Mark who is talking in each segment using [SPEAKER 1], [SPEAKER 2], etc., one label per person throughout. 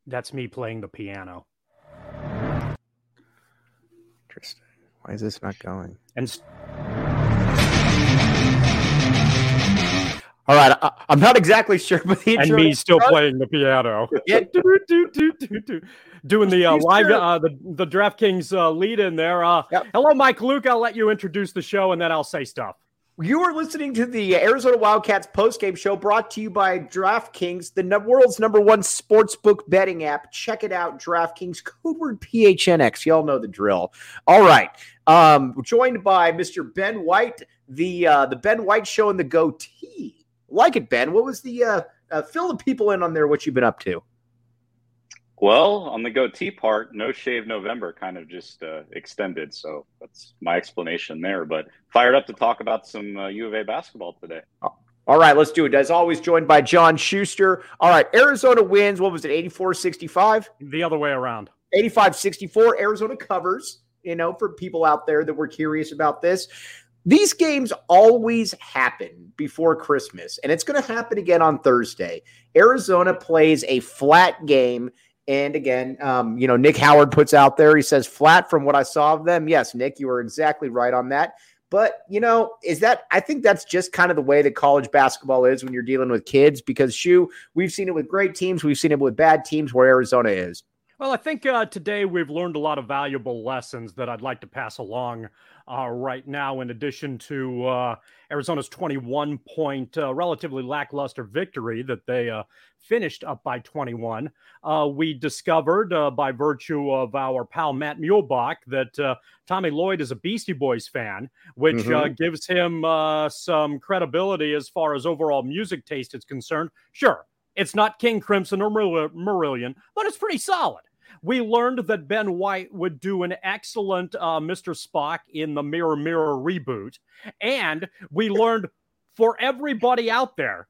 [SPEAKER 1] That's me playing the piano.
[SPEAKER 2] Interesting. Why is this not going? All right, I'm not exactly sure, but the
[SPEAKER 1] intro and me still playing the piano.
[SPEAKER 2] Yeah.
[SPEAKER 1] Doing the live, the DraftKings lead in there. Yep. Hello, Mike Luke. I'll let you introduce the show, and then I'll say stuff.
[SPEAKER 2] You are listening to the Arizona Wildcats postgame show brought to you by DraftKings, the world's #1 sportsbook betting app. Check it out, DraftKings, code word PHNX. Y'all know the drill. All right. Joined by Mr. Ben White, the Ben White Show and the Goatee. Like it, Ben. What was the fill the people in on there, what you've been up to?
[SPEAKER 3] Well, on the goatee part, No Shave November kind of just extended. So that's my explanation there. But fired up to talk about some U of A basketball today.
[SPEAKER 2] All right, let's do it. As always, joined by John Schuster. All right, Arizona wins. What was it, 84-65?
[SPEAKER 1] The other way around.
[SPEAKER 2] 85-64. Arizona covers, for people out there that were curious about this. These games always happen before Christmas, and it's going to happen again on Thursday. Arizona plays a flat game. And again, Nick Howard puts out there, he says flat from what I saw of them. Yes, Nick, you are exactly right on that. But, I think that's just kind of the way that college basketball is when you're dealing with kids, because we've seen it with great teams. We've seen it with bad teams where Arizona is.
[SPEAKER 1] Well, I think today we've learned a lot of valuable lessons that I'd like to pass along right now, in addition to Arizona's 21-point relatively lackluster victory that they finished up by 21. We discovered by virtue of our pal Matt Muehlbach that Tommy Lloyd is a Beastie Boys fan, which gives him some credibility as far as overall music taste is concerned. Sure, it's not King Crimson or Marillion, but it's pretty solid. We learned that Ben White would do an excellent Mr. Spock in the Mirror Mirror reboot. And we learned for everybody out there,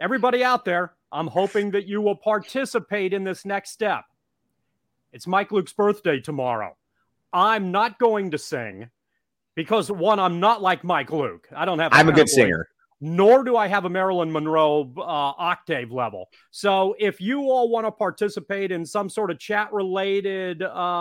[SPEAKER 1] I'm hoping that you will participate in this next step. It's Mike Luke's birthday tomorrow. I'm not going to sing because, one, I'm not like Mike Luke. I'm
[SPEAKER 2] a good singer.
[SPEAKER 1] Nor do I have a Marilyn Monroe octave level. So if you all want to participate in some sort of chat-related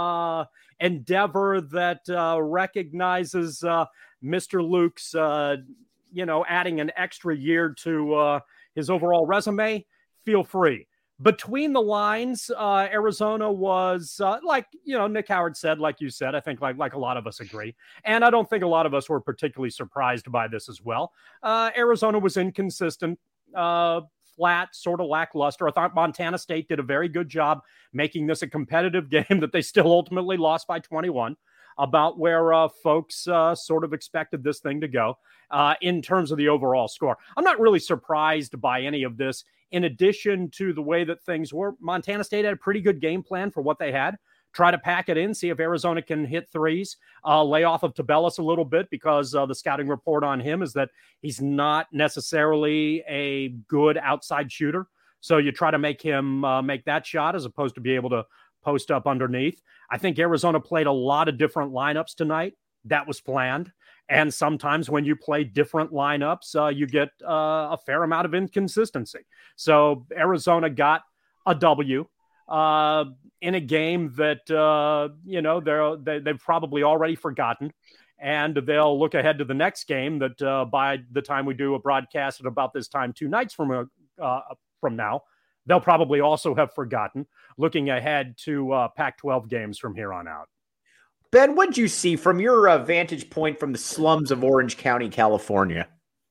[SPEAKER 1] endeavor that recognizes Mr. Luke's, adding an extra year to his overall resume, feel free. Between the lines, Arizona was, Nick Howard said, like you said, I think like a lot of us agree. And I don't think a lot of us were particularly surprised by this as well. Arizona was inconsistent, flat, sort of lackluster. I thought Montana State did a very good job making this a competitive game that they still ultimately lost by 21, about where folks sort of expected this thing to go in terms of the overall score. I'm not really surprised by any of this. In addition to the way that things were, Montana State had a pretty good game plan for what they had. Try to pack it in, see if Arizona can hit threes, lay off of Tabellis a little bit, because the scouting report on him is that he's not necessarily a good outside shooter. So you try to make him make that shot as opposed to be able to post up underneath. I think Arizona played a lot of different lineups tonight. That was planned. And sometimes when you play different lineups, you get a fair amount of inconsistency. So Arizona got a W in a game that, they've probably already forgotten. And they'll look ahead to the next game that by the time we do a broadcast at about this time 2 nights from now, they'll probably also have forgotten, looking ahead to Pac-12 games from here on out.
[SPEAKER 2] Ben, what did you see from your vantage point from the slums of Orange County, California?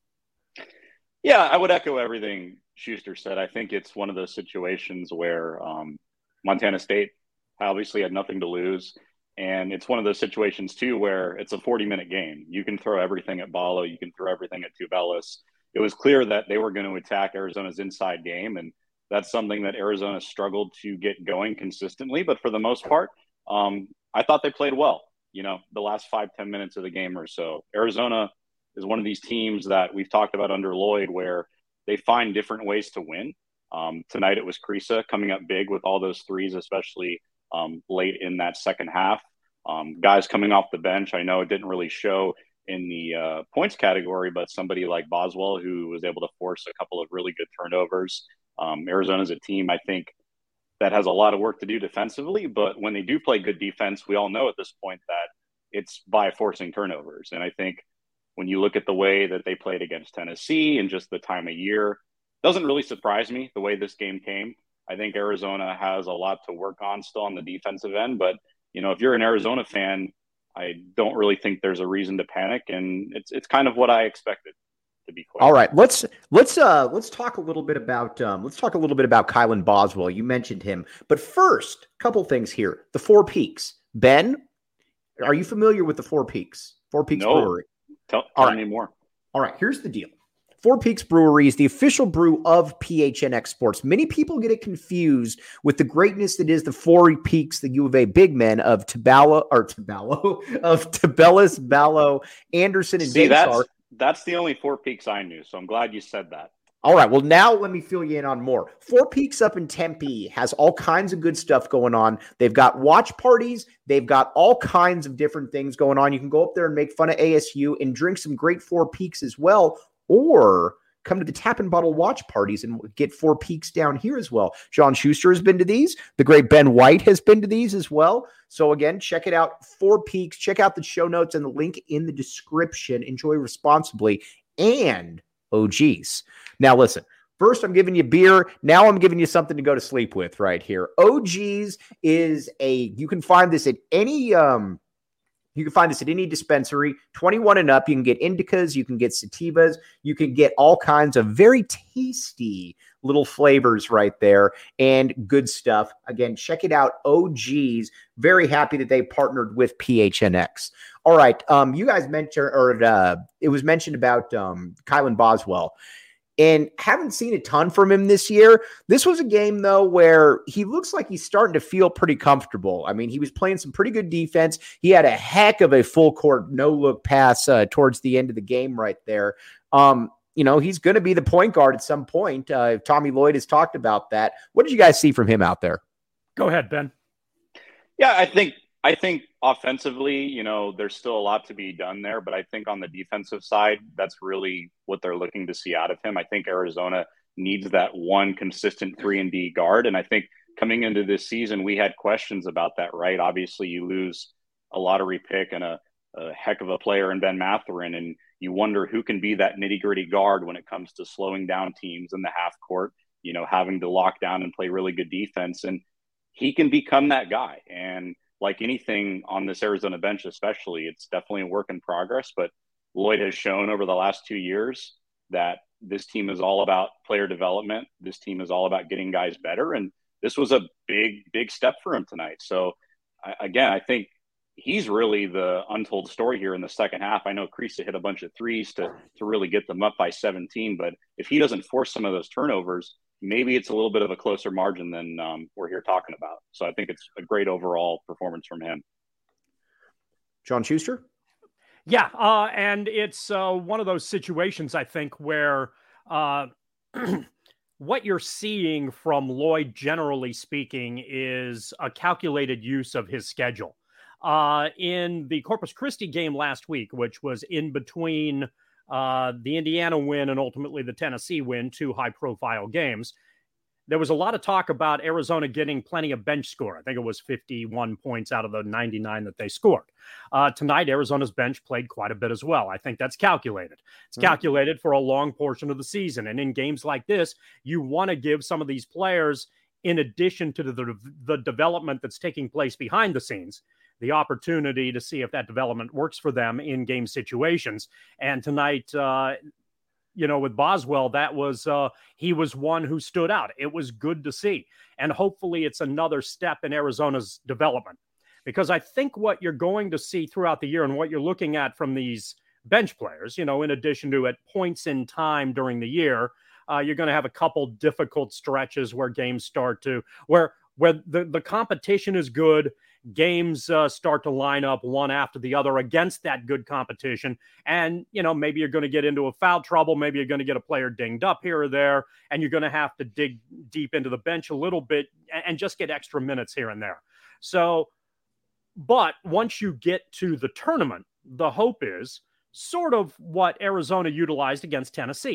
[SPEAKER 3] Yeah, I would echo everything Schuster said. I think it's one of those situations where Montana State obviously had nothing to lose. And it's one of those situations, too, where it's a 40-minute game. You can throw everything at Ballo. You can throw everything at Tubelis. It was clear that they were going to attack Arizona's inside game, and that's something that Arizona struggled to get going consistently. But for the most part, I thought they played well, the last 5-10 minutes of the game or so. Arizona is one of these teams that we've talked about under Lloyd where they find different ways to win. Tonight it was Kriisa coming up big with all those threes, especially late in that second half. Guys coming off the bench, I know it didn't really show in the points category, but somebody like Boswell who was able to force a couple of really good turnovers. Arizona's a team, I think, that has a lot of work to do defensively. But when they do play good defense, we all know at this point that it's by forcing turnovers. And I think when you look at the way that they played against Tennessee and just the time of year, it doesn't really surprise me the way this game came. I think Arizona has a lot to work on still on the defensive end. But, if you're an Arizona fan, I don't really think there's a reason to panic. And it's kind of what I expected. To be clear.
[SPEAKER 2] All right, let's talk a little bit about Kylan Boswell. You mentioned him, but first, a couple things here. The Four Peaks. Ben, are you familiar with the Four Peaks? Four Peaks Brewery.
[SPEAKER 3] Tell me more.
[SPEAKER 2] All right, here's the deal. Four Peaks Brewery is the official brew of PHNX Sports. Many people get it confused with the greatness that is the Four Peaks, the U of A big men of Tabellis, Ballo, Anderson, and Daystar.
[SPEAKER 3] That's the only Four Peaks I knew, so I'm glad you said that.
[SPEAKER 2] All right, well, now let me fill you in on more. Four Peaks up in Tempe has all kinds of good stuff going on. They've got watch parties. They've got all kinds of different things going on. You can go up there and make fun of ASU and drink some great Four Peaks as well, or come to the Tap and Bottle watch parties and get Four Peaks down here as well. John Schuster has been to these. The great Ben White has been to these as well. So again, check it out. Four Peaks. Check out the show notes and the link in the description. Enjoy responsibly. And, oh geez. Now listen, first I'm giving you beer. Now I'm giving you something to go to sleep with right here. OG's is you can find this at any, dispensary, 21 and up. You can get indicas, you can get sativas, you can get all kinds of very tasty little flavors right there and good stuff. Again, check it out. OG's. Very happy that they partnered with PHNX. All right. You guys mentioned, it was mentioned about Kylan Boswell. And haven't seen a ton from him this year. This was a game, though, where he looks like he's starting to feel pretty comfortable. I mean, he was playing some pretty good defense. He had a heck of a full court no-look pass towards the end of the game right there. He's going to be the point guard at some point. Tommy Lloyd has talked about that. What did you guys see from him out there?
[SPEAKER 1] Go ahead, Ben.
[SPEAKER 3] Yeah, I think offensively, there's still a lot to be done there, but I think on the defensive side, that's really what they're looking to see out of him. I think Arizona needs that one consistent 3-and-D guard. And I think coming into this season, we had questions about that, right? Obviously, you lose a lottery pick and a heck of a player in Ben Mathurin, and you wonder who can be that nitty-gritty guard when it comes to slowing down teams in the half court, having to lock down and play really good defense. And he can become that guy. And like anything on this Arizona bench, especially, it's definitely a work in progress. But Lloyd has shown over the last 2 years that this team is all about player development. This team is all about getting guys better. And this was a big, big step for him tonight. So, I think he's really the untold story here in the second half. I know Kriisa hit a bunch of threes to really get them up by 17. But if he doesn't force some of those turnovers, maybe it's a little bit of a closer margin than we're here talking about. So I think it's a great overall performance from him.
[SPEAKER 2] John Schuster?
[SPEAKER 1] Yeah, and it's one of those situations, I think, where what you're seeing from Lloyd, generally speaking, is a calculated use of his schedule. In the Corpus Christi game last week, which was in between the Indiana win and ultimately the Tennessee win, two high-profile games, there was a lot of talk about Arizona getting plenty of bench score. I think it was 51 points out of the 99 that they scored. Tonight, Arizona's bench played quite a bit as well. I think that's calculated. It's calculated for a long portion of the season. And in games like this, you want to give some of these players, in addition to the development that's taking place behind the scenes, the opportunity to see if that development works for them in game situations. And tonight, with Boswell, that was he was one who stood out. It was good to see. And hopefully it's another step in Arizona's development. Because I think what you're going to see throughout the year and what you're looking at from these bench players, in addition to at points in time during the year, you're going to have a couple difficult stretches where games start to, where the competition is good. Games start to line up one after the other against that good competition. And, maybe you're going to get into a foul trouble. Maybe you're going to get a player dinged up here or there, and you're going to have to dig deep into the bench a little bit and just get extra minutes here and there. So, but once you get to the tournament, the hope is sort of what Arizona utilized against Tennessee.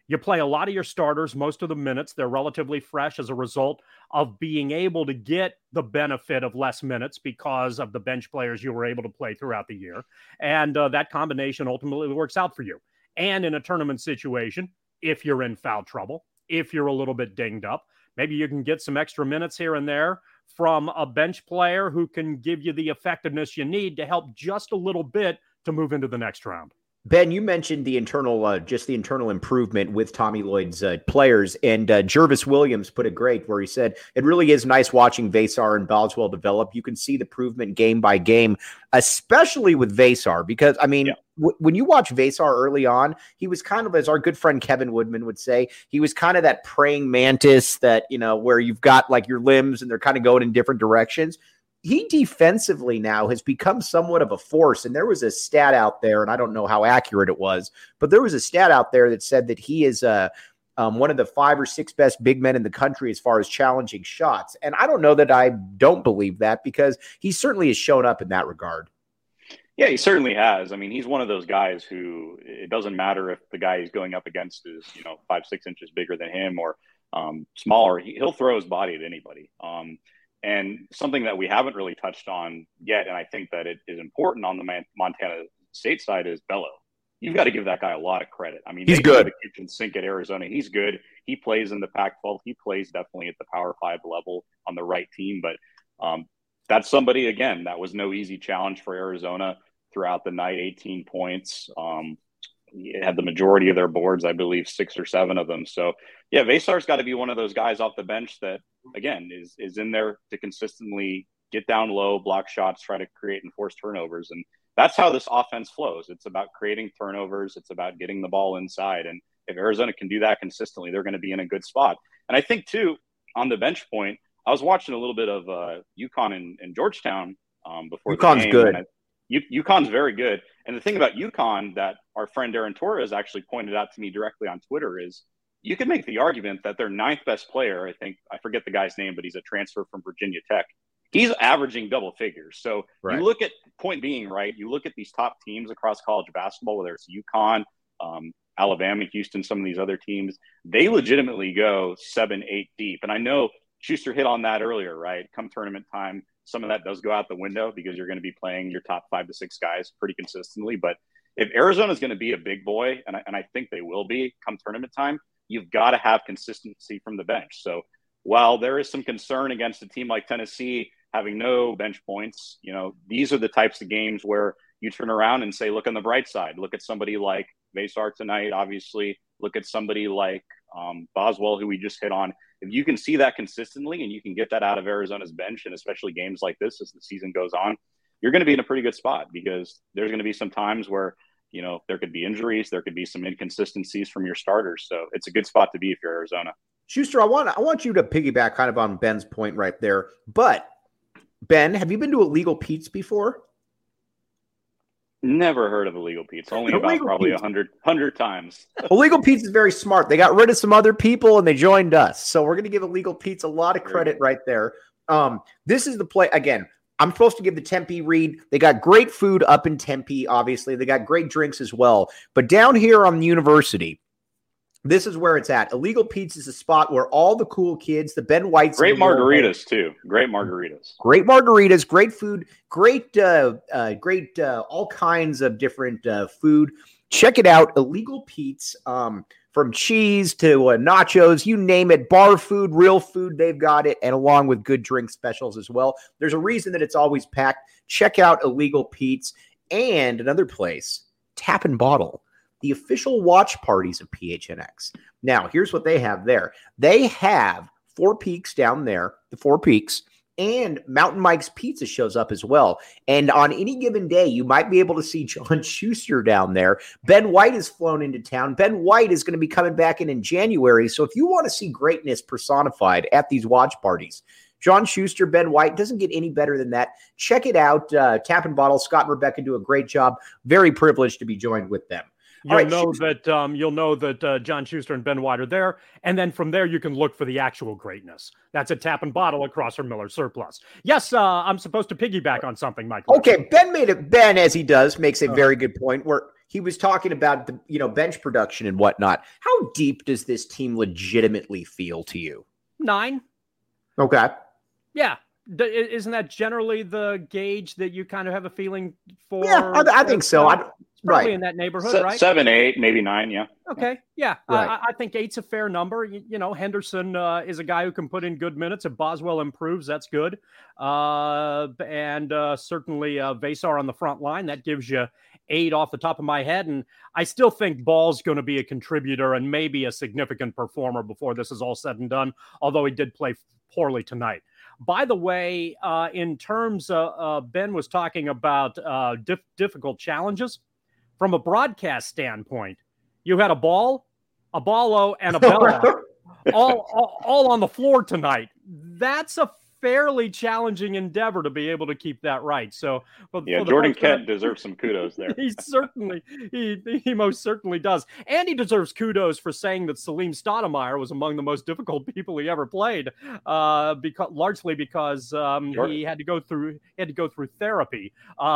[SPEAKER 1] You play a lot of your starters, most of the minutes. They're relatively fresh as a result of being able to get the benefit of less minutes because of the bench players you were able to play throughout the year. And that combination ultimately works out for you. And in a tournament situation, if you're in foul trouble, if you're a little bit dinged up, maybe you can get some extra minutes here and there from a bench player who can give you the effectiveness you need to help just a little bit to move into the next round.
[SPEAKER 2] Ben, you mentioned the internal, just the internal improvement with Tommy Lloyd's players, and Jervis Williams put it great where he said, it really is nice watching Vesar and Boswell develop. You can see the improvement game by game, especially with Vesar, because, I mean, when you watch Vesar early on, he was kind of, as our good friend Kevin Woodman would say, he was kind of that praying mantis that, you know, where you've got like your limbs and they're kind of going in different directions. He defensively now has become somewhat of a force. And there was a stat out there, and I don't know how accurate it was, but there was a stat out there that said that he is one of the 5 or 6 best big men in the country as far as challenging shots. And I don't know that I don't believe that, because he certainly has shown up in that regard.
[SPEAKER 3] Yeah, he certainly has. I mean, he's one of those guys who it doesn't matter if the guy he's going up against is, 5-6 inches bigger than him or smaller. He'll throw his body at anybody. And something that we haven't really touched on yet, and I think that it is important on the Montana State side, is Bello. You've got to give that guy a lot of credit. I mean,
[SPEAKER 2] he's good.
[SPEAKER 3] The kitchen sink at Arizona. He's good. He plays in the Pac-12. He plays definitely at the Power 5 level on the right team. But that's somebody, again, that was no easy challenge for Arizona throughout the night. 18 points. Had the majority of their boards, I believe 6 or 7 of them. So, yeah, Vesar's got to be one of those guys off the bench that, again, is in there to consistently get down low, block shots, try to create and force turnovers. And that's how this offense flows. It's about creating turnovers. It's about getting the ball inside. And if Arizona can do that consistently, they're going to be in a good spot. And I think, too, on the bench point, I was watching a little bit of UConn and Georgetown before
[SPEAKER 2] UConn's
[SPEAKER 3] the game.
[SPEAKER 2] Good.
[SPEAKER 3] UConn's very good. And the thing about UConn that our friend Aaron Torres actually pointed out to me directly on Twitter is you could make the argument that their 9th best player, I forget the guy's name, but he's a transfer from Virginia Tech. He's averaging double figures. So You look at, point being, right, you look at these top teams across college basketball, whether it's UConn, Alabama, Houston, some of these other teams, they legitimately go 7, 8 deep. And I know Schuster hit on that earlier, right? Come tournament time, some of that does go out the window because you're going to be playing your top 5 to 6 guys pretty consistently. But if Arizona is going to be a big boy, and I think they will be come tournament time, you've got to have consistency from the bench. So while there is some concern against a team like Tennessee having no bench points, these are the types of games where you turn around and say, look on the bright side. Look at somebody like Vesar tonight, obviously. Look at somebody like Boswell, who we just hit on. If you can see that consistently and you can get that out of Arizona's bench, and especially games like this as the season goes on, you're going to be in a pretty good spot, because there's going to be some times where, there could be injuries, there could be some inconsistencies from your starters. So it's a good spot to be if you're Arizona.
[SPEAKER 2] Schuster, I want you to piggyback kind of on Ben's point right there. But Ben, have you been to Illegal Pete's before?
[SPEAKER 3] Never heard of Illegal Pete's. Only about probably 100 times.
[SPEAKER 2] Illegal Pete's is very smart. They got rid of some other people and they joined us. So we're going to give Illegal Pete's a lot of credit right there. This is the play. Again, I'm supposed to give the Tempe read. They got great food up in Tempe, obviously. They got great drinks as well. But down here on the university, this is where it's at. Illegal Pete's is a spot where all the cool kids, the Ben Whites.
[SPEAKER 3] Great margaritas, too. Great margaritas.
[SPEAKER 2] Great margaritas, great food, great all kinds of different food. Check it out. Illegal Pete's, from cheese to nachos, you name it, bar food, real food, they've got it, and along with good drink specials as well. There's a reason that it's always packed. Check out Illegal Pete's. And another place, Tap and Bottle, the official watch parties of PHNX. Now, here's what they have there. They have Four Peaks down there, the Four Peaks, and Mountain Mike's Pizza shows up as well. And on any given day, you might be able to see John Schuster down there. Ben White has flown into town. Ben White is going to be coming back in January. So if you want to see greatness personified at these watch parties, John Schuster, Ben White, doesn't get any better than that. Check it out. Tap and Bottle. Scott and Rebecca do a great job. Very privileged to be joined with them.
[SPEAKER 1] You'll know that John Schuster and Ben White are there, and then from there you can look for the actual greatness. That's a Tap and Bottle across from Miller Surplus. Yes, I'm supposed to piggyback on something, Mike.
[SPEAKER 2] Okay, Ben, as he does, makes a very good point. Where he was talking about the bench production and whatnot. How deep does this team legitimately feel to you?
[SPEAKER 1] 9.
[SPEAKER 2] Okay.
[SPEAKER 1] Yeah. Isn't that generally the gauge that you kind of have a feeling for?
[SPEAKER 2] Yeah, I think so.
[SPEAKER 1] Probably in that neighborhood, right?
[SPEAKER 3] 7, 8, maybe 9. Yeah.
[SPEAKER 1] Okay. Yeah.
[SPEAKER 2] Right.
[SPEAKER 1] I think 8's a fair number. Henderson is a guy who can put in good minutes. If Boswell improves, that's good. And certainly Vasar on the front line, that gives you 8 off the top of my head. And I still think Ball's going to be a contributor and maybe a significant performer before this is all said and done, although he did play poorly tonight. By the way, in terms of Ben was talking about difficult challenges. From a broadcast standpoint, you had a Ballo, and a Bella all on the floor tonight. That's a fairly challenging endeavor to be able to keep that right. So,
[SPEAKER 3] Jordan Kent deserves some kudos there.
[SPEAKER 1] He most certainly does, and he deserves kudos for saying that Salim Stoudemire was among the most difficult people he ever played, largely because he had to go through therapy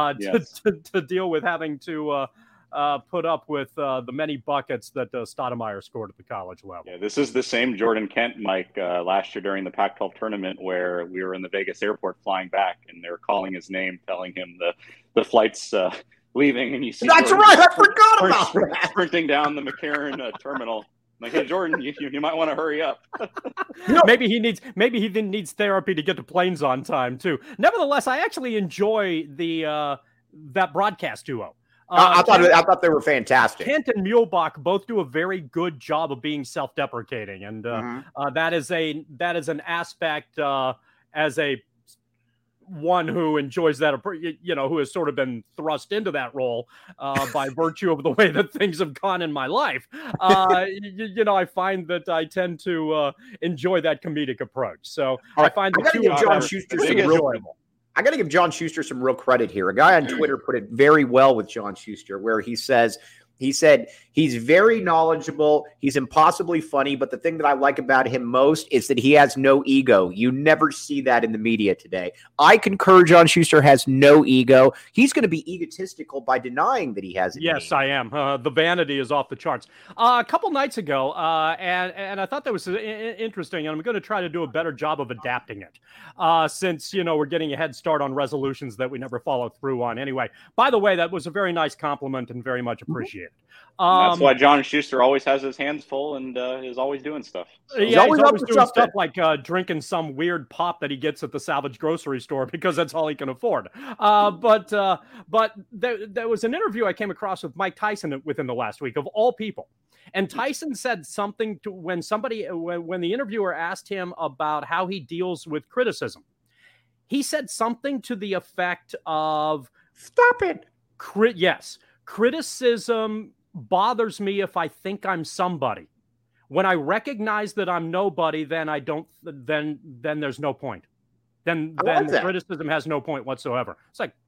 [SPEAKER 1] to deal with having to put up with the many buckets that Stoudemire scored at the college level.
[SPEAKER 3] Yeah, this is the same Jordan Kent, Mike, last year during the Pac-12 tournament where we were in the Vegas airport flying back, and they were calling his name, telling him the flight's leaving, and you see
[SPEAKER 2] that's
[SPEAKER 3] Jordan
[SPEAKER 2] right, I forgot about that.
[SPEAKER 3] Sprinting down the McCarran terminal. Like, hey, Jordan, you might want to hurry up.
[SPEAKER 1] Maybe he needs therapy to get to planes on time too. Nevertheless, I actually enjoy that broadcast duo.
[SPEAKER 2] I thought they were fantastic.
[SPEAKER 1] Kent and Muehlbach both do a very good job of being self-deprecating, and that is an aspect as a one who enjoys that, who has sort of been thrust into that role by virtue of the way that things have gone in my life. I find that I tend to enjoy that comedic approach. So I find the two of
[SPEAKER 2] John Schuster some enjoyable. I got to give John Schuster some real credit here. A guy on Twitter put it very well with John Schuster, where he said he's very knowledgeable. He's impossibly funny. But the thing that I like about him most is that he has no ego. You never see that in the media today. I concur. John Schuster has no ego. He's going to be egotistical by denying that he has it.
[SPEAKER 1] Yes, I am. The vanity is off the charts. A couple nights ago, and I thought that was interesting, and I'm going to try to do a better job of adapting it since, we're getting a head start on resolutions that we never follow through on anyway. By the way, that was a very nice compliment and very much appreciated.
[SPEAKER 3] That's why John Schuster always has his hands full and is always doing stuff. So.
[SPEAKER 1] He's always doing stuff like drinking some weird pop that he gets at the salvage grocery store because that's all he can afford. But there was an interview I came across with Mike Tyson within the last week, of all people. And Tyson said something when the interviewer asked him about how he deals with criticism. He said something to the effect of,
[SPEAKER 2] "Stop it."
[SPEAKER 1] Yes. Criticism bothers me if I think I'm somebody. When I recognize that I'm nobody, then then there's no point. Then criticism has no point whatsoever. It's like,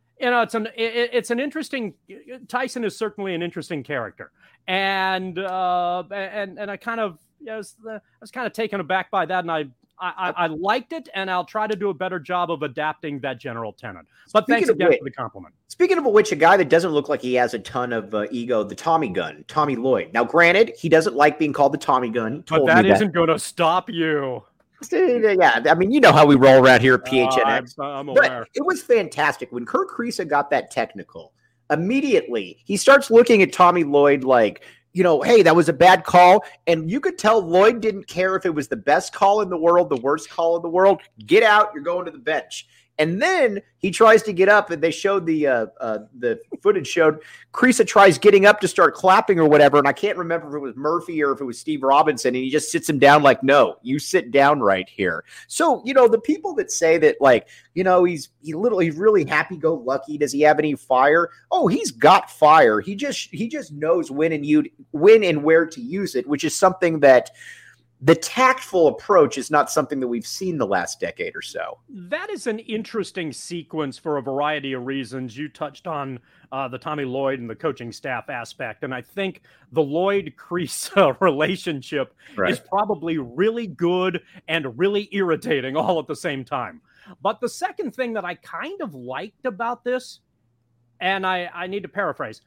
[SPEAKER 1] it's an interesting. Tyson is certainly an interesting character, and I kind of I was kind of taken aback by that, and I liked it, and I'll try to do a better job of adapting that general tenet. But thanks again for the compliment.
[SPEAKER 2] Speaking of which, a guy that doesn't look like he has a ton of ego, the Tommy Gun, Tommy Lloyd. Now, granted, he doesn't like being called the Tommy Gun.
[SPEAKER 1] But that isn't going to stop you.
[SPEAKER 2] Yeah, I mean, you know how we roll around here at PHNX.
[SPEAKER 1] I'm aware.
[SPEAKER 2] But it was fantastic. When Kirk Kriisa got that technical, immediately he starts looking at Tommy Lloyd like, hey, that was a bad call. And you could tell Lloyd didn't care if it was the best call in the world, the worst call in the world. Get out. You're going to the bench. And then he tries to get up, and they showed the footage showed Kriisa tries getting up to start clapping or whatever. And I can't remember if it was Murphy or if it was Steve Robinson. And he just sits him down like, no, you sit down right here. So, the people that say that, like, he's really happy-go-lucky. Does he have any fire? Oh, he's got fire. He just knows when and where to use it, which is something that the tactful approach is not something that we've seen the last decade or so.
[SPEAKER 1] That is an interesting sequence for a variety of reasons. You touched on the Tommy Lloyd and the coaching staff aspect, and I think the Lloyd-Kriisa relationship is probably really good and really irritating all at the same time. But the second thing that I kind of liked about this, and I need to paraphrase,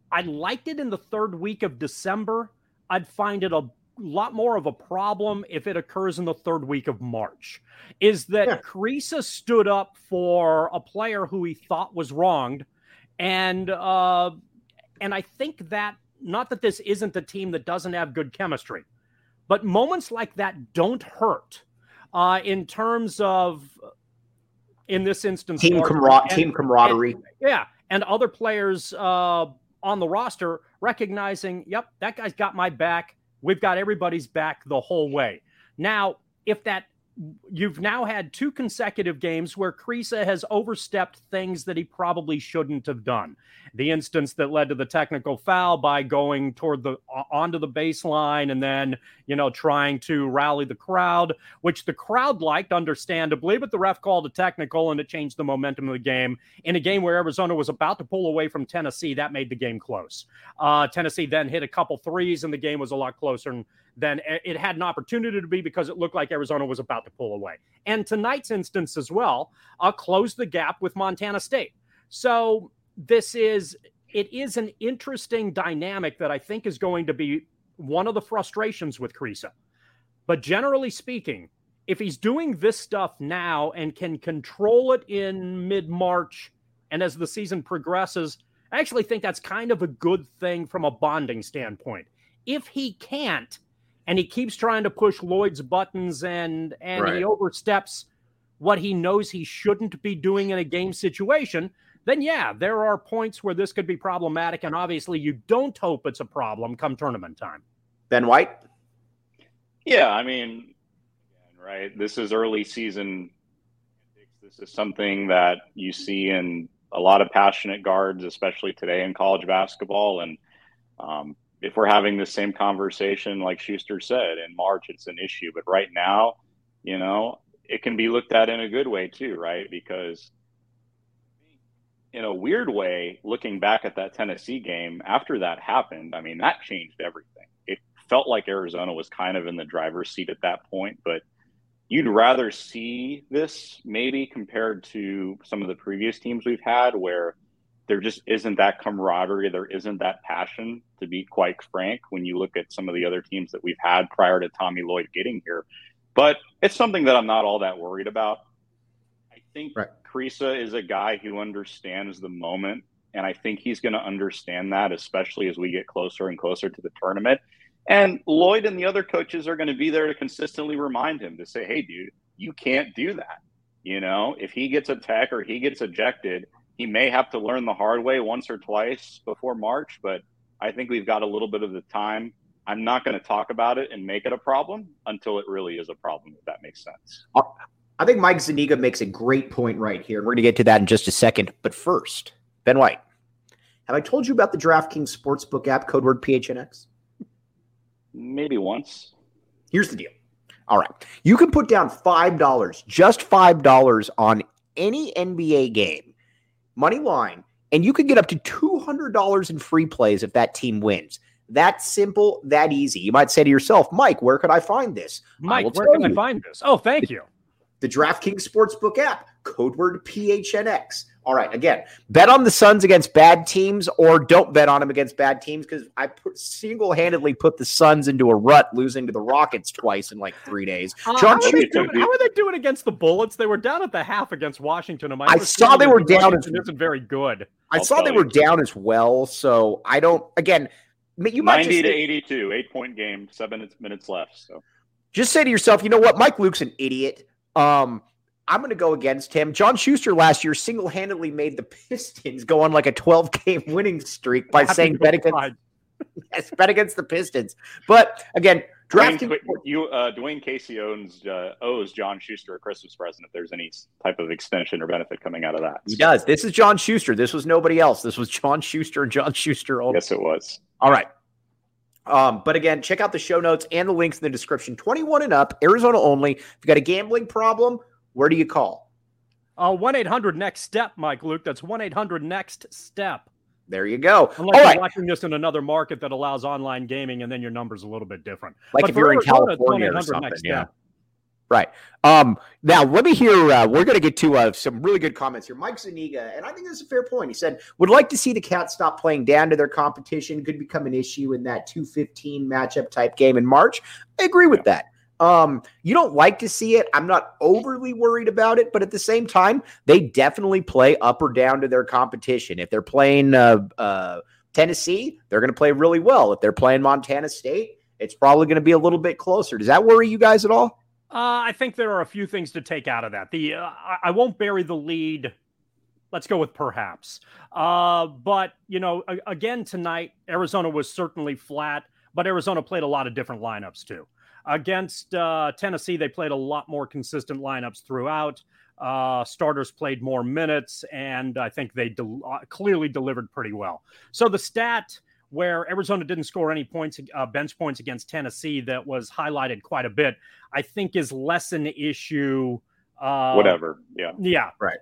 [SPEAKER 1] I liked it in the third week of December. I'd find it a lot more of a problem if it occurs in the third week of March. Is that Kriisa stood up for a player who he thought was wronged, and I think that, not that this isn't a team that doesn't have good chemistry, but moments like that don't hurt in terms of, in this instance,
[SPEAKER 2] team camaraderie.
[SPEAKER 1] And other players on the roster recognizing, yep, that guy's got my back. We've got everybody's back the whole way. Now, if that, you've now had 2 consecutive games where Kriisa has overstepped things that he probably shouldn't have done. The instance that led to the technical foul by going onto the baseline and then, trying to rally the crowd, which the crowd liked, understandably, but the ref called a technical and it changed the momentum of the game. In a game where Arizona was about to pull away from Tennessee, that made the game close. Tennessee then hit a couple threes and the game was a lot closer than it had an opportunity to be, because it looked like Arizona was about to pull away. And tonight's instance as well closed the gap with Montana State. So it is an interesting dynamic that I think is going to be one of the frustrations with Kriisa. But generally speaking, if he's doing this stuff now and can control it in mid-March and as the season progresses, I actually think that's kind of a good thing from a bonding standpoint. If he can't, and he keeps trying to push Lloyd's buttons and he oversteps what he knows he shouldn't be doing in a game situation, then there are points where this could be problematic. And obviously you don't hope it's a problem come tournament time.
[SPEAKER 2] Ben White?
[SPEAKER 3] Yeah, I mean, right, this is early season. This is something that you see in a lot of passionate guards, especially today in college basketball. And if we're having the same conversation, like Schuster said, in March, it's an issue. But right now, it can be looked at in a good way too, right? Because in a weird way, looking back at that Tennessee game, after that happened, I mean, that changed everything. It felt like Arizona was kind of in the driver's seat at that point, but you'd rather see this maybe compared to some of the previous teams we've had where there just isn't that camaraderie, there isn't that passion, to be quite frank, when you look at some of the other teams that we've had prior to Tommy Lloyd getting here. But it's something that I'm not all that worried about. I think Kriisa is a guy who understands the moment, and I think he's going to understand that, especially as we get closer and closer to the tournament. And Lloyd and the other coaches are going to be there to consistently remind him to say, hey, dude, you can't do that. If he gets a tech or he gets ejected, he may have to learn the hard way once or twice before March, but I think we've got a little bit of the time. I'm not going to talk about it and make it a problem until it really is a problem, if that makes sense.
[SPEAKER 2] I think Mike Zuniga makes a great point right here. We're going to get to that in just a second. But first, Ben White, have I told you about the DraftKings Sportsbook app, code word PHNX?
[SPEAKER 3] Maybe once.
[SPEAKER 2] Here's the deal. All right. You can put down $5, just $5 on any NBA game, money line, and you can get up to $200 in free plays if that team wins. That simple, that easy. You might say to yourself, Mike, where could I find this?
[SPEAKER 1] Mike, where can I find this? Oh, thank you.
[SPEAKER 2] The DraftKings Sportsbook app, code word PHNX. All right, again, bet on the Suns against bad teams or don't bet on them against bad teams, because I single-handedly put the Suns into a rut, losing to the Rockets twice in like 3 days.
[SPEAKER 1] How are they doing against the Bullets? They were down at the half against Washington.
[SPEAKER 2] I saw they were down.
[SPEAKER 1] Washington isn't very good.
[SPEAKER 2] I saw they were down as well, so I don't – again, you might
[SPEAKER 3] 90 to 82, 8-point game, 7 minutes left. So
[SPEAKER 2] just say to yourself, you know what? Mike Luke's an idiot. I'm going to go against him. John Schuster last year single-handedly made the Pistons go on like a 12-game winning streak by saying bet against the Pistons. But again,
[SPEAKER 3] Dwayne Casey owes John Schuster a Christmas present if there's any type of extension or benefit coming out of that.
[SPEAKER 2] He does. This is John Schuster. This was nobody else. This was John Schuster and John Schuster.
[SPEAKER 3] Yes, it was.
[SPEAKER 2] All right. But again, check out the show notes and the links in the description. 21 and up, Arizona only. If you got a gambling problem, where do you call?
[SPEAKER 1] 1-800-NEXT-STEP, Mike Luke. That's 1-800-NEXT-STEP.
[SPEAKER 2] There you go.
[SPEAKER 1] Unless you're watching this in another market that allows online gaming, and then your number's a little bit different.
[SPEAKER 2] Like if you're in California or something, yeah. Right. Now, let me hear, we're going to get to some really good comments here. Mike Zuniga, and I think this is a fair point. He said, would like to see the Cats stop playing down to their competition. Could become an issue in that 2-15 matchup type game in March. I agree with that. You don't like to see it. I'm not overly worried about it, but at the same time, they definitely play up or down to their competition. If they're playing Tennessee, they're going to play really well. If they're playing Montana State, it's probably going to be a little bit closer. Does that worry you guys at all?
[SPEAKER 1] I think there are a few things to take out of that. I won't bury the lead. Let's go with perhaps. But, again, tonight, Arizona was certainly flat, but Arizona played a lot of different lineups too. Against Tennessee, they played a lot more consistent lineups throughout. Starters played more minutes, and I think they clearly delivered pretty well. So the stat where Arizona didn't score any points, bench points against Tennessee, that was highlighted quite a bit, I think is less an issue.
[SPEAKER 3] Whatever. Yeah.
[SPEAKER 1] Yeah.
[SPEAKER 2] Right.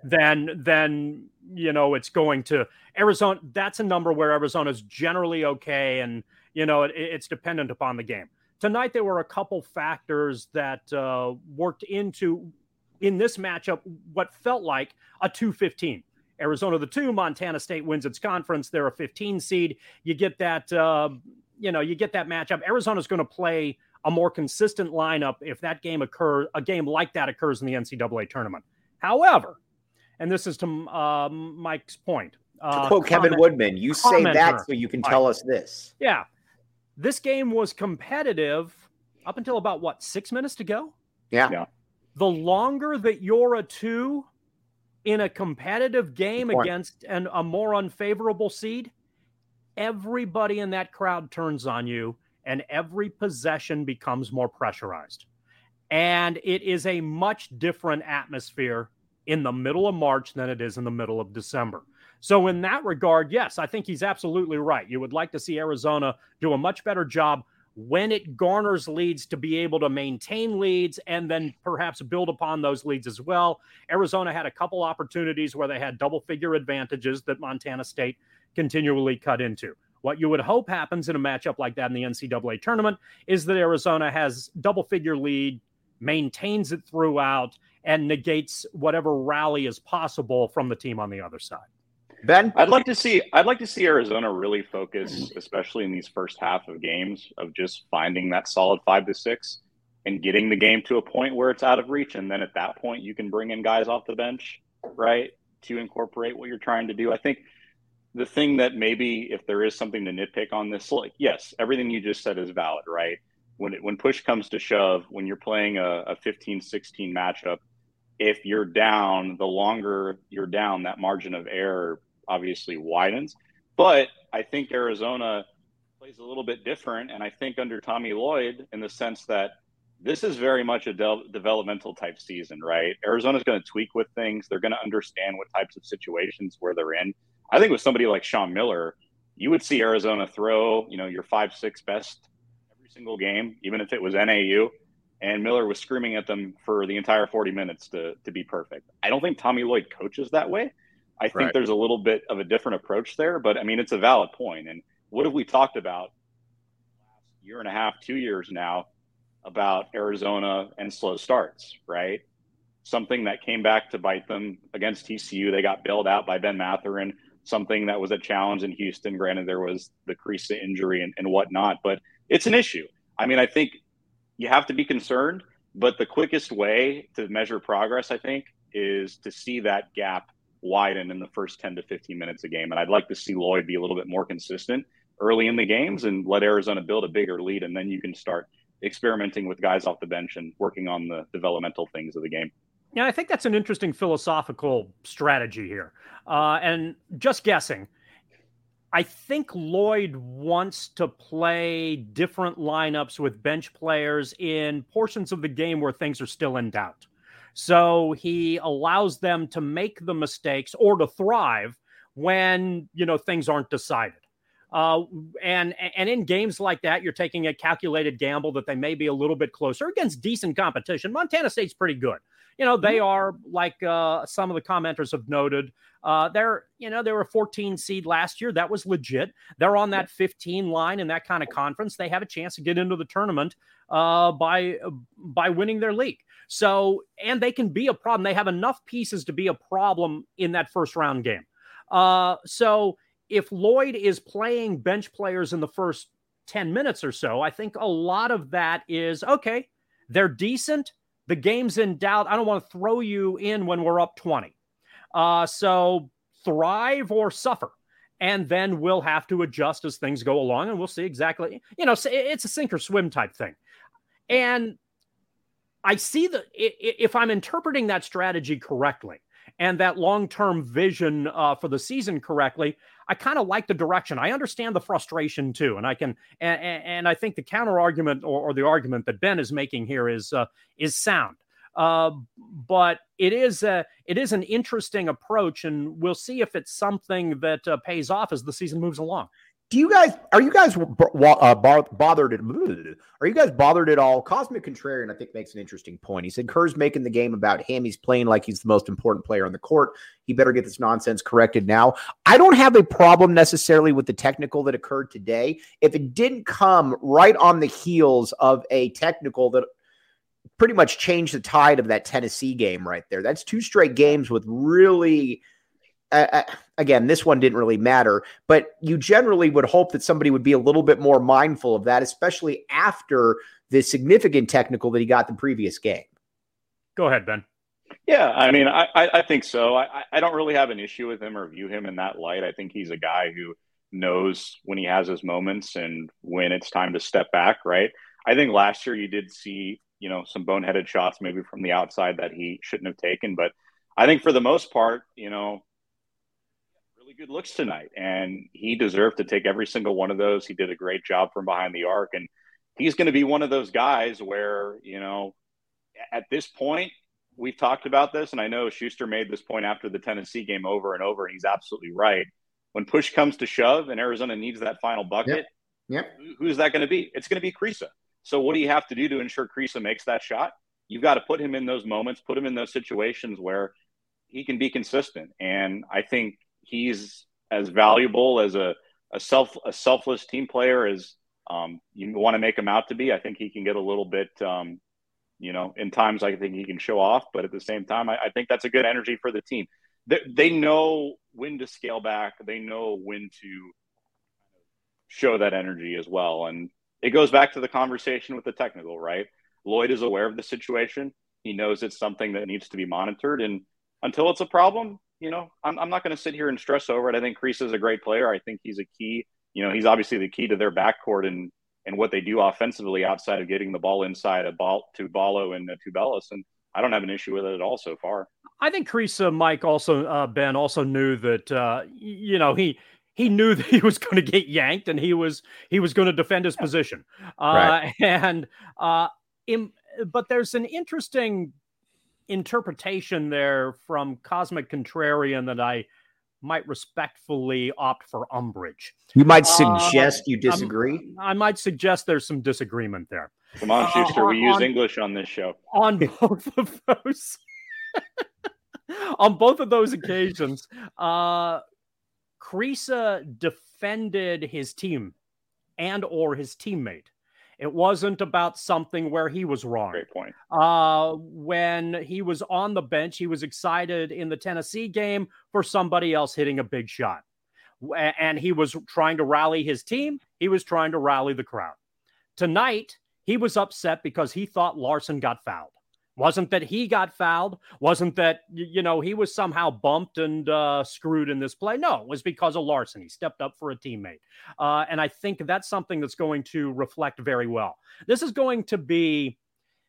[SPEAKER 1] Then it's going to Arizona. That's a number where Arizona's generally okay. And, it's dependent upon the game. Tonight, there were a couple factors that worked into, in this matchup, what felt like a 2-15. Arizona the 2, Montana State wins its conference. They're a 15 seed. You get that, you get that matchup. Arizona's going to play a more consistent lineup if that game a game like that occurs in the NCAA tournament. However, and this is to Mike's point.
[SPEAKER 2] To quote Kevin Woodman, you say that so you can tell us this.
[SPEAKER 1] Yeah. This game was competitive up until about, 6 minutes to go?
[SPEAKER 2] Yeah.
[SPEAKER 1] The longer that you're a 2 in a competitive game against a more unfavorable seed, everybody in that crowd turns on you, and every possession becomes more pressurized. And it is a much different atmosphere in the middle of March than it is in the middle of December. So in that regard, yes, I think he's absolutely right. You would like to see Arizona do a much better job when it garners leads to be able to maintain leads and then perhaps build upon those leads as well. Arizona had a couple opportunities where they had double-figure advantages that Montana State continually cut into. What you would hope happens in a matchup like that in the NCAA tournament is that Arizona has double-figure lead, maintains it throughout, and negates whatever rally is possible from the team on the other side.
[SPEAKER 2] Ben?
[SPEAKER 3] I'd like to see Arizona really focus, especially in these first half of games, of just finding that solid 5-6 and getting the game to a point where it's out of reach. And then at that point, you can bring in guys off the bench, right, to incorporate what you're trying to do. I think the thing that maybe if there is something to nitpick on this, like, yes, everything you just said is valid, right? When push comes to shove, when you're playing a 15-16 matchup, if you're down, the longer you're down, that margin of error obviously widens. But I think Arizona plays a little bit different. And I think under Tommy Lloyd, in the sense that this is very much a developmental type season, right? Arizona's going to tweak with things. They're going to understand what types of situations where they're in. I think with somebody like Sean Miller, you would see Arizona throw, your 5-6 best every single game, even if it was NAU. And Miller was screaming at them for the entire 40 minutes to be perfect. I don't think Tommy Lloyd coaches that way. I think there's a little bit of a different approach there, but I mean, it's a valid point. And what have we talked about last year and a half, 2 years now about Arizona and slow starts, right? Something that came back to bite them against TCU. They got bailed out by Ben Mathurin, something that was a challenge in Houston. Granted, there was the Creasa injury and whatnot, but it's an issue. I mean, I think you have to be concerned, but the quickest way to measure progress, I think, is to see that gap widen in the first 10 to 15 minutes a game. And I'd like to see Lloyd be a little bit more consistent early in the games and let Arizona build a bigger lead. And then you can start experimenting with guys off the bench and working on the developmental things of the game.
[SPEAKER 1] Yeah, I think that's an interesting philosophical strategy here. And just guessing, I think Lloyd wants to play different lineups with bench players in portions of the game where things are still in doubt. So he allows them to make the mistakes or to thrive when, things aren't decided. And in games like that, you're taking a calculated gamble that they may be a little bit closer against decent competition. Montana State's pretty good. They are, like some of the commenters have noted, they were a 14 seed last year. That was legit. They're on that 15 line in that kind of conference. They have a chance to get into the tournament by winning their league. So, and they can be a problem. They have enough pieces to be a problem in that first round game. So if Lloyd is playing bench players in the first 10 minutes or so, I think a lot of that is, okay, they're decent. The game's in doubt. I don't want to throw you in when we're up 20. So thrive or suffer. And then we'll have to adjust as things go along, and we'll see exactly, it's a sink or swim type thing. And I see if I'm interpreting that strategy correctly and that long-term vision for the season correctly, I kind of like the direction. I understand the frustration too. And I think the counter argument or the argument that Ben is making here is sound. But it is an interesting approach, and we'll see if it's something that pays off as the season moves along.
[SPEAKER 2] Are you guys bothered at all? Cosmic Contrarian, I think, makes an interesting point. He said Kerr's making the game about him. He's playing like he's the most important player on the court. He better get this nonsense corrected now. I don't have a problem necessarily with the technical that occurred today. If it didn't come right on the heels of a technical that pretty much changed the tide of that Tennessee game right there. That's 2 straight games with really... again, this one didn't really matter, but you generally would hope that somebody would be a little bit more mindful of that, especially after the significant technical that he got the previous game.
[SPEAKER 1] Go ahead, Ben.
[SPEAKER 3] Yeah, I mean, I think so. I don't really have an issue with him or view him in that light. I think he's a guy who knows when he has his moments and when it's time to step back, right? I think last year you did see, some boneheaded shots maybe from the outside that he shouldn't have taken, but I think for the most part, good looks tonight, and he deserved to take every single one of those. He did a great job from behind the arc, and he's going to be one of those guys where, at this point, we've talked about this, and I know Schuster made this point after the Tennessee game over and over, and he's absolutely right. When push comes to shove and Arizona needs that final bucket, who's that going to be? It's going to be Kriisa. So what do you have to do to ensure Kriisa makes that shot? You've got to put him in those moments, put him in those situations where he can be consistent, and I think he's as valuable as a selfless team player as you want to make him out to be. I think he can get a little bit, in times I think he can show off, but at the same time, I think that's a good energy for the team. They know when to scale back. They know when to show that energy as well. And it goes back to the conversation with the technical, right? Lloyd is aware of the situation. He knows it's something that needs to be monitored. And until it's a problem, I'm not going to sit here and stress over it. I think Kriisa is a great player. I think he's a key. He's obviously the key to their backcourt and what they do offensively outside of getting the ball inside to Ballo and Tubelis. And I don't have an issue with it at all so far.
[SPEAKER 1] I think Kriisa, Mike, also Ben also knew that he knew that he was going to get yanked, and he was going to defend his position. Right. But there's an interesting interpretation there from Cosmic Contrarian that I might respectfully opt for umbrage.
[SPEAKER 2] You might suggest you disagree?
[SPEAKER 1] I might suggest there's some disagreement there.
[SPEAKER 3] Come on, Schuster. We use English on this show.
[SPEAKER 1] On both of those. On both of those occasions, Kriisa defended his team and or his teammate. It wasn't about something where he was wrong.
[SPEAKER 3] Great point.
[SPEAKER 1] When he was on the bench, he was excited in the Tennessee game for somebody else hitting a big shot. And he was trying to rally his team. He was trying to rally the crowd. Tonight, he was upset because he thought Larson got fouled. Wasn't that he got fouled. Wasn't that, he was somehow bumped and screwed in this play. No, it was because of Larson. He stepped up for a teammate. And I think that's something that's going to reflect very well. This is going to be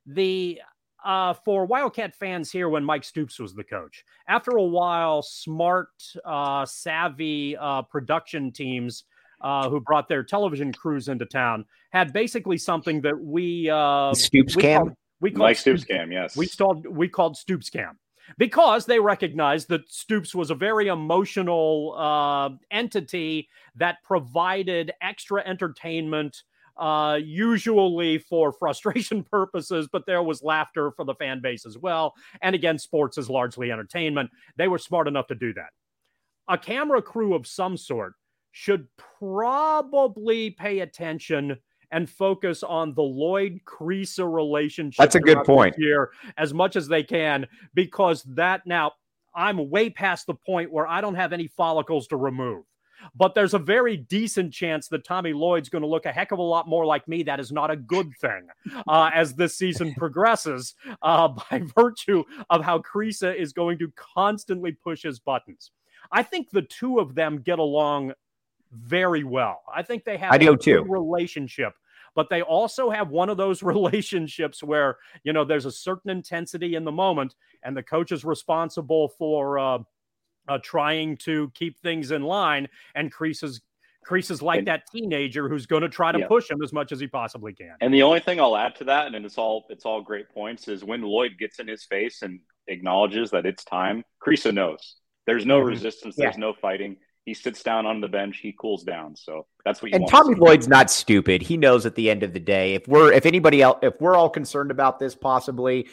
[SPEAKER 1] for Wildcat fans here when Mike Stoops was the coach. After a while, smart, savvy production teams who brought their television crews into town had basically something that we
[SPEAKER 2] Stoops cam.
[SPEAKER 1] We called
[SPEAKER 3] Stoops Cam, yes.
[SPEAKER 1] We called Stoops Cam because they recognized that Stoops was a very emotional entity that provided extra entertainment, usually for frustration purposes, but there was laughter for the fan base as well. And again, sports is largely entertainment. They were smart enough to do that. A camera crew of some sort should probably pay attention and focus on the Lloyd-Kriisa relationship.
[SPEAKER 2] That's a good point.
[SPEAKER 1] Here as much as they can, because that now I'm way past the point where I don't have any follicles to remove. But there's a very decent chance that Tommy Lloyd's going to look a heck of a lot more like me. That is not a good thing as this season progresses by virtue of how Kriisa is going to constantly push his buttons. I think the two of them get along very well. I think they have a good relationship, but they also have one of those relationships where, there's a certain intensity in the moment and the coach is responsible for trying to keep things in line. And Kriisa's like that teenager who's going to try to push him as much as he possibly can.
[SPEAKER 3] And the only thing I'll add to that, and it's all great points, is when Lloyd gets in his face and acknowledges that it's time, Kriisa knows. There's no resistance. There's no fighting. He sits down on the bench. He cools down. So that's what you want.
[SPEAKER 2] And Tommy Lloyd's not stupid. He knows at the end of the day, if we're all concerned about this, possibly,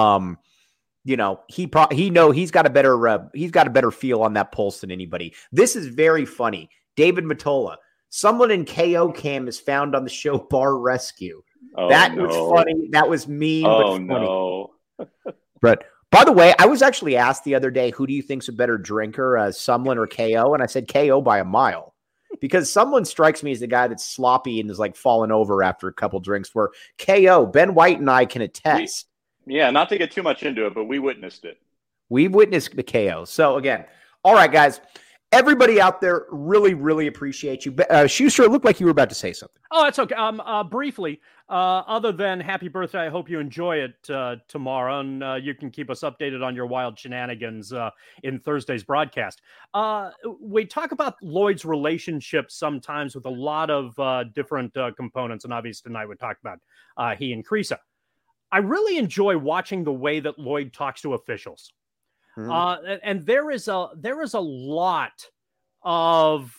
[SPEAKER 2] he's got a better feel on that pulse than anybody. This is very funny. David Matola, someone in KO Cam is found on the show Bar Rescue. Was funny. That was mean.
[SPEAKER 3] Oh,
[SPEAKER 2] but funny.
[SPEAKER 3] No.
[SPEAKER 2] But by the way, I was actually asked the other day, who do you think's a better drinker, Sumlin or KO? And I said KO by a mile, because Sumlin strikes me as the guy that's sloppy and is like falling over after a couple drinks, where KO, Ben White and I can attest.
[SPEAKER 3] Not to get too much into it, but we witnessed it.
[SPEAKER 2] We witnessed the KO. So again, all right, guys, everybody out there, really, really appreciate you. Schuster, it looked like you were about to say something.
[SPEAKER 1] Oh, that's okay. Briefly, other than happy birthday, I hope you enjoy it tomorrow, and you can keep us updated on your wild shenanigans in Thursday's broadcast. We talk about Lloyd's relationship sometimes with a lot of different components, and obviously tonight we talked about he and Kriisa. I really enjoy watching the way that Lloyd talks to officials. And there is a lot of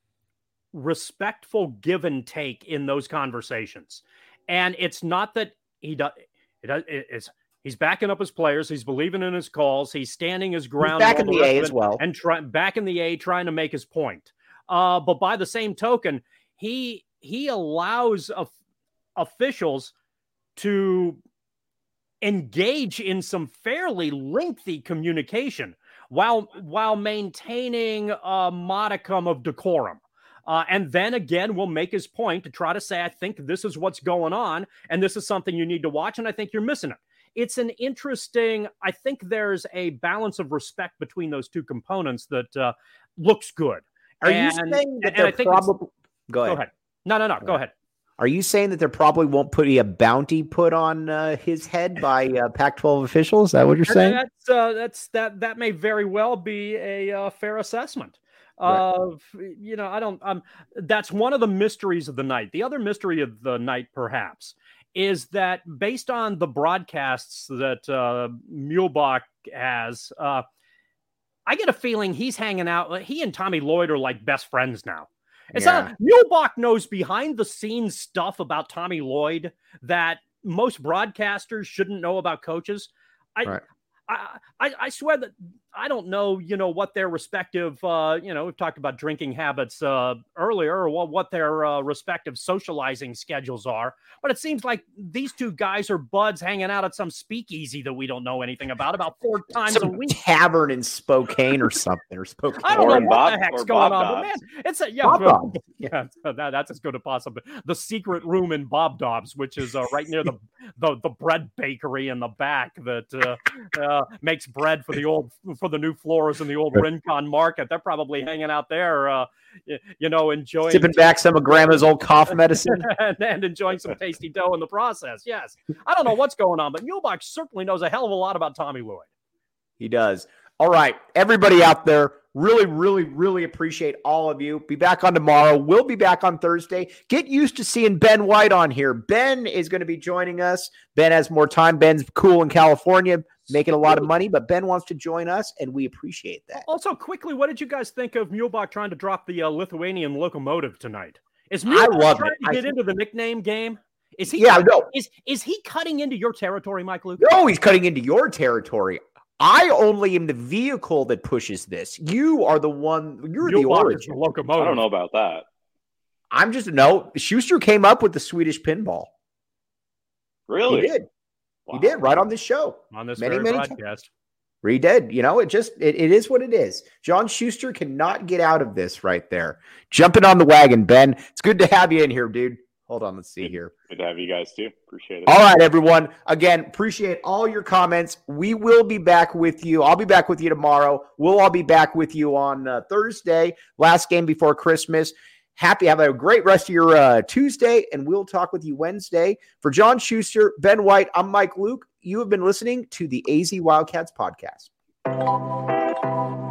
[SPEAKER 1] respectful give and take in those conversations. And it's not that he's backing up his players. He's believing in his calls. He's standing his ground.
[SPEAKER 2] He's back in the A as well.
[SPEAKER 1] And back in the A, trying to make his point. But by the same token, he allows officials to engage in some fairly lengthy communication while maintaining a modicum of decorum. And then again, we'll make his point to try to say, I think this is what's going on, and this is something you need to watch, and I think you're missing it. It's an interesting, I think there's a balance of respect between those two components that looks good.
[SPEAKER 2] Are you saying that they're probably... Go ahead.
[SPEAKER 1] No, go ahead.
[SPEAKER 2] Are you saying that there probably won't be a bounty put on his head by Pac-12 officials? Is that what you're saying?
[SPEAKER 1] That may very well be a fair assessment. Of that's one of the mysteries of the night. The other mystery of the night, perhaps, is that based on the broadcasts that Muehlbach has, I get a feeling he's hanging out. He and Tommy Lloyd are like best friends now. It's not Muehlbach knows behind the scenes stuff about Tommy Lloyd that most broadcasters shouldn't know about coaches. I swear that I don't know, what their respective, we've talked about drinking habits earlier, or what their respective socializing schedules are. But it seems like these two guys are buds hanging out at some speakeasy that we don't know anything about 4 times a week.
[SPEAKER 2] Tavern in Spokane or something, or Spokane.
[SPEAKER 1] I don't know what the heck's going on, but man, it's that's as good a possible. The secret room in Bob Dobbs, which is right near the bread bakery in the back that makes bread for the new floors in the old Rincon Market. They're probably hanging out there, enjoying
[SPEAKER 2] sipping back some of Grandma's old cough medicine
[SPEAKER 1] and enjoying some tasty dough in the process. Yes, I don't know what's going on, but Muehlbach certainly knows a hell of a lot about Tommy Lloyd.
[SPEAKER 2] He does. All right, everybody out there, really, really, really appreciate all of you. Be back on tomorrow. We'll be back on Thursday. Get used to seeing Ben White on here. Ben is going to be joining us. Ben has more time. Ben's cool in California, making a lot of money, but Ben wants to join us, and we appreciate that.
[SPEAKER 1] Also, quickly, what did you guys think of Muehlbach trying to drop the Lithuanian locomotive tonight? Is Muehlbach trying to get into the nickname game? Is he?
[SPEAKER 2] Yeah, no.
[SPEAKER 1] Is he cutting into your territory, Mike Luke?
[SPEAKER 2] No, he's cutting into your territory. I only am the vehicle that pushes this. You are the one. You're the origin.
[SPEAKER 1] Locomotive.
[SPEAKER 3] I don't know about that.
[SPEAKER 2] Schuster came up with the Swedish pinball.
[SPEAKER 3] Really?
[SPEAKER 2] He did.
[SPEAKER 3] Wow.
[SPEAKER 2] He did right on this show.
[SPEAKER 1] On this
[SPEAKER 2] many
[SPEAKER 1] broadcast.
[SPEAKER 2] Times. He did. It is what it is. John Schuster cannot get out of this right there. Jumping on the wagon, Ben. It's good to have you in here, dude. Hold on. Let's see here.
[SPEAKER 3] Good to have you guys too. Appreciate it.
[SPEAKER 2] All right, everyone. Again, appreciate all your comments. We will be back with you. I'll be back with you tomorrow. We'll all be back with you on Thursday, last game before Christmas. Have a great rest of your Tuesday, and we'll talk with you Wednesday. For John Schuster, Ben White, I'm Mike Luke. You have been listening to the AZ Wildcats podcast.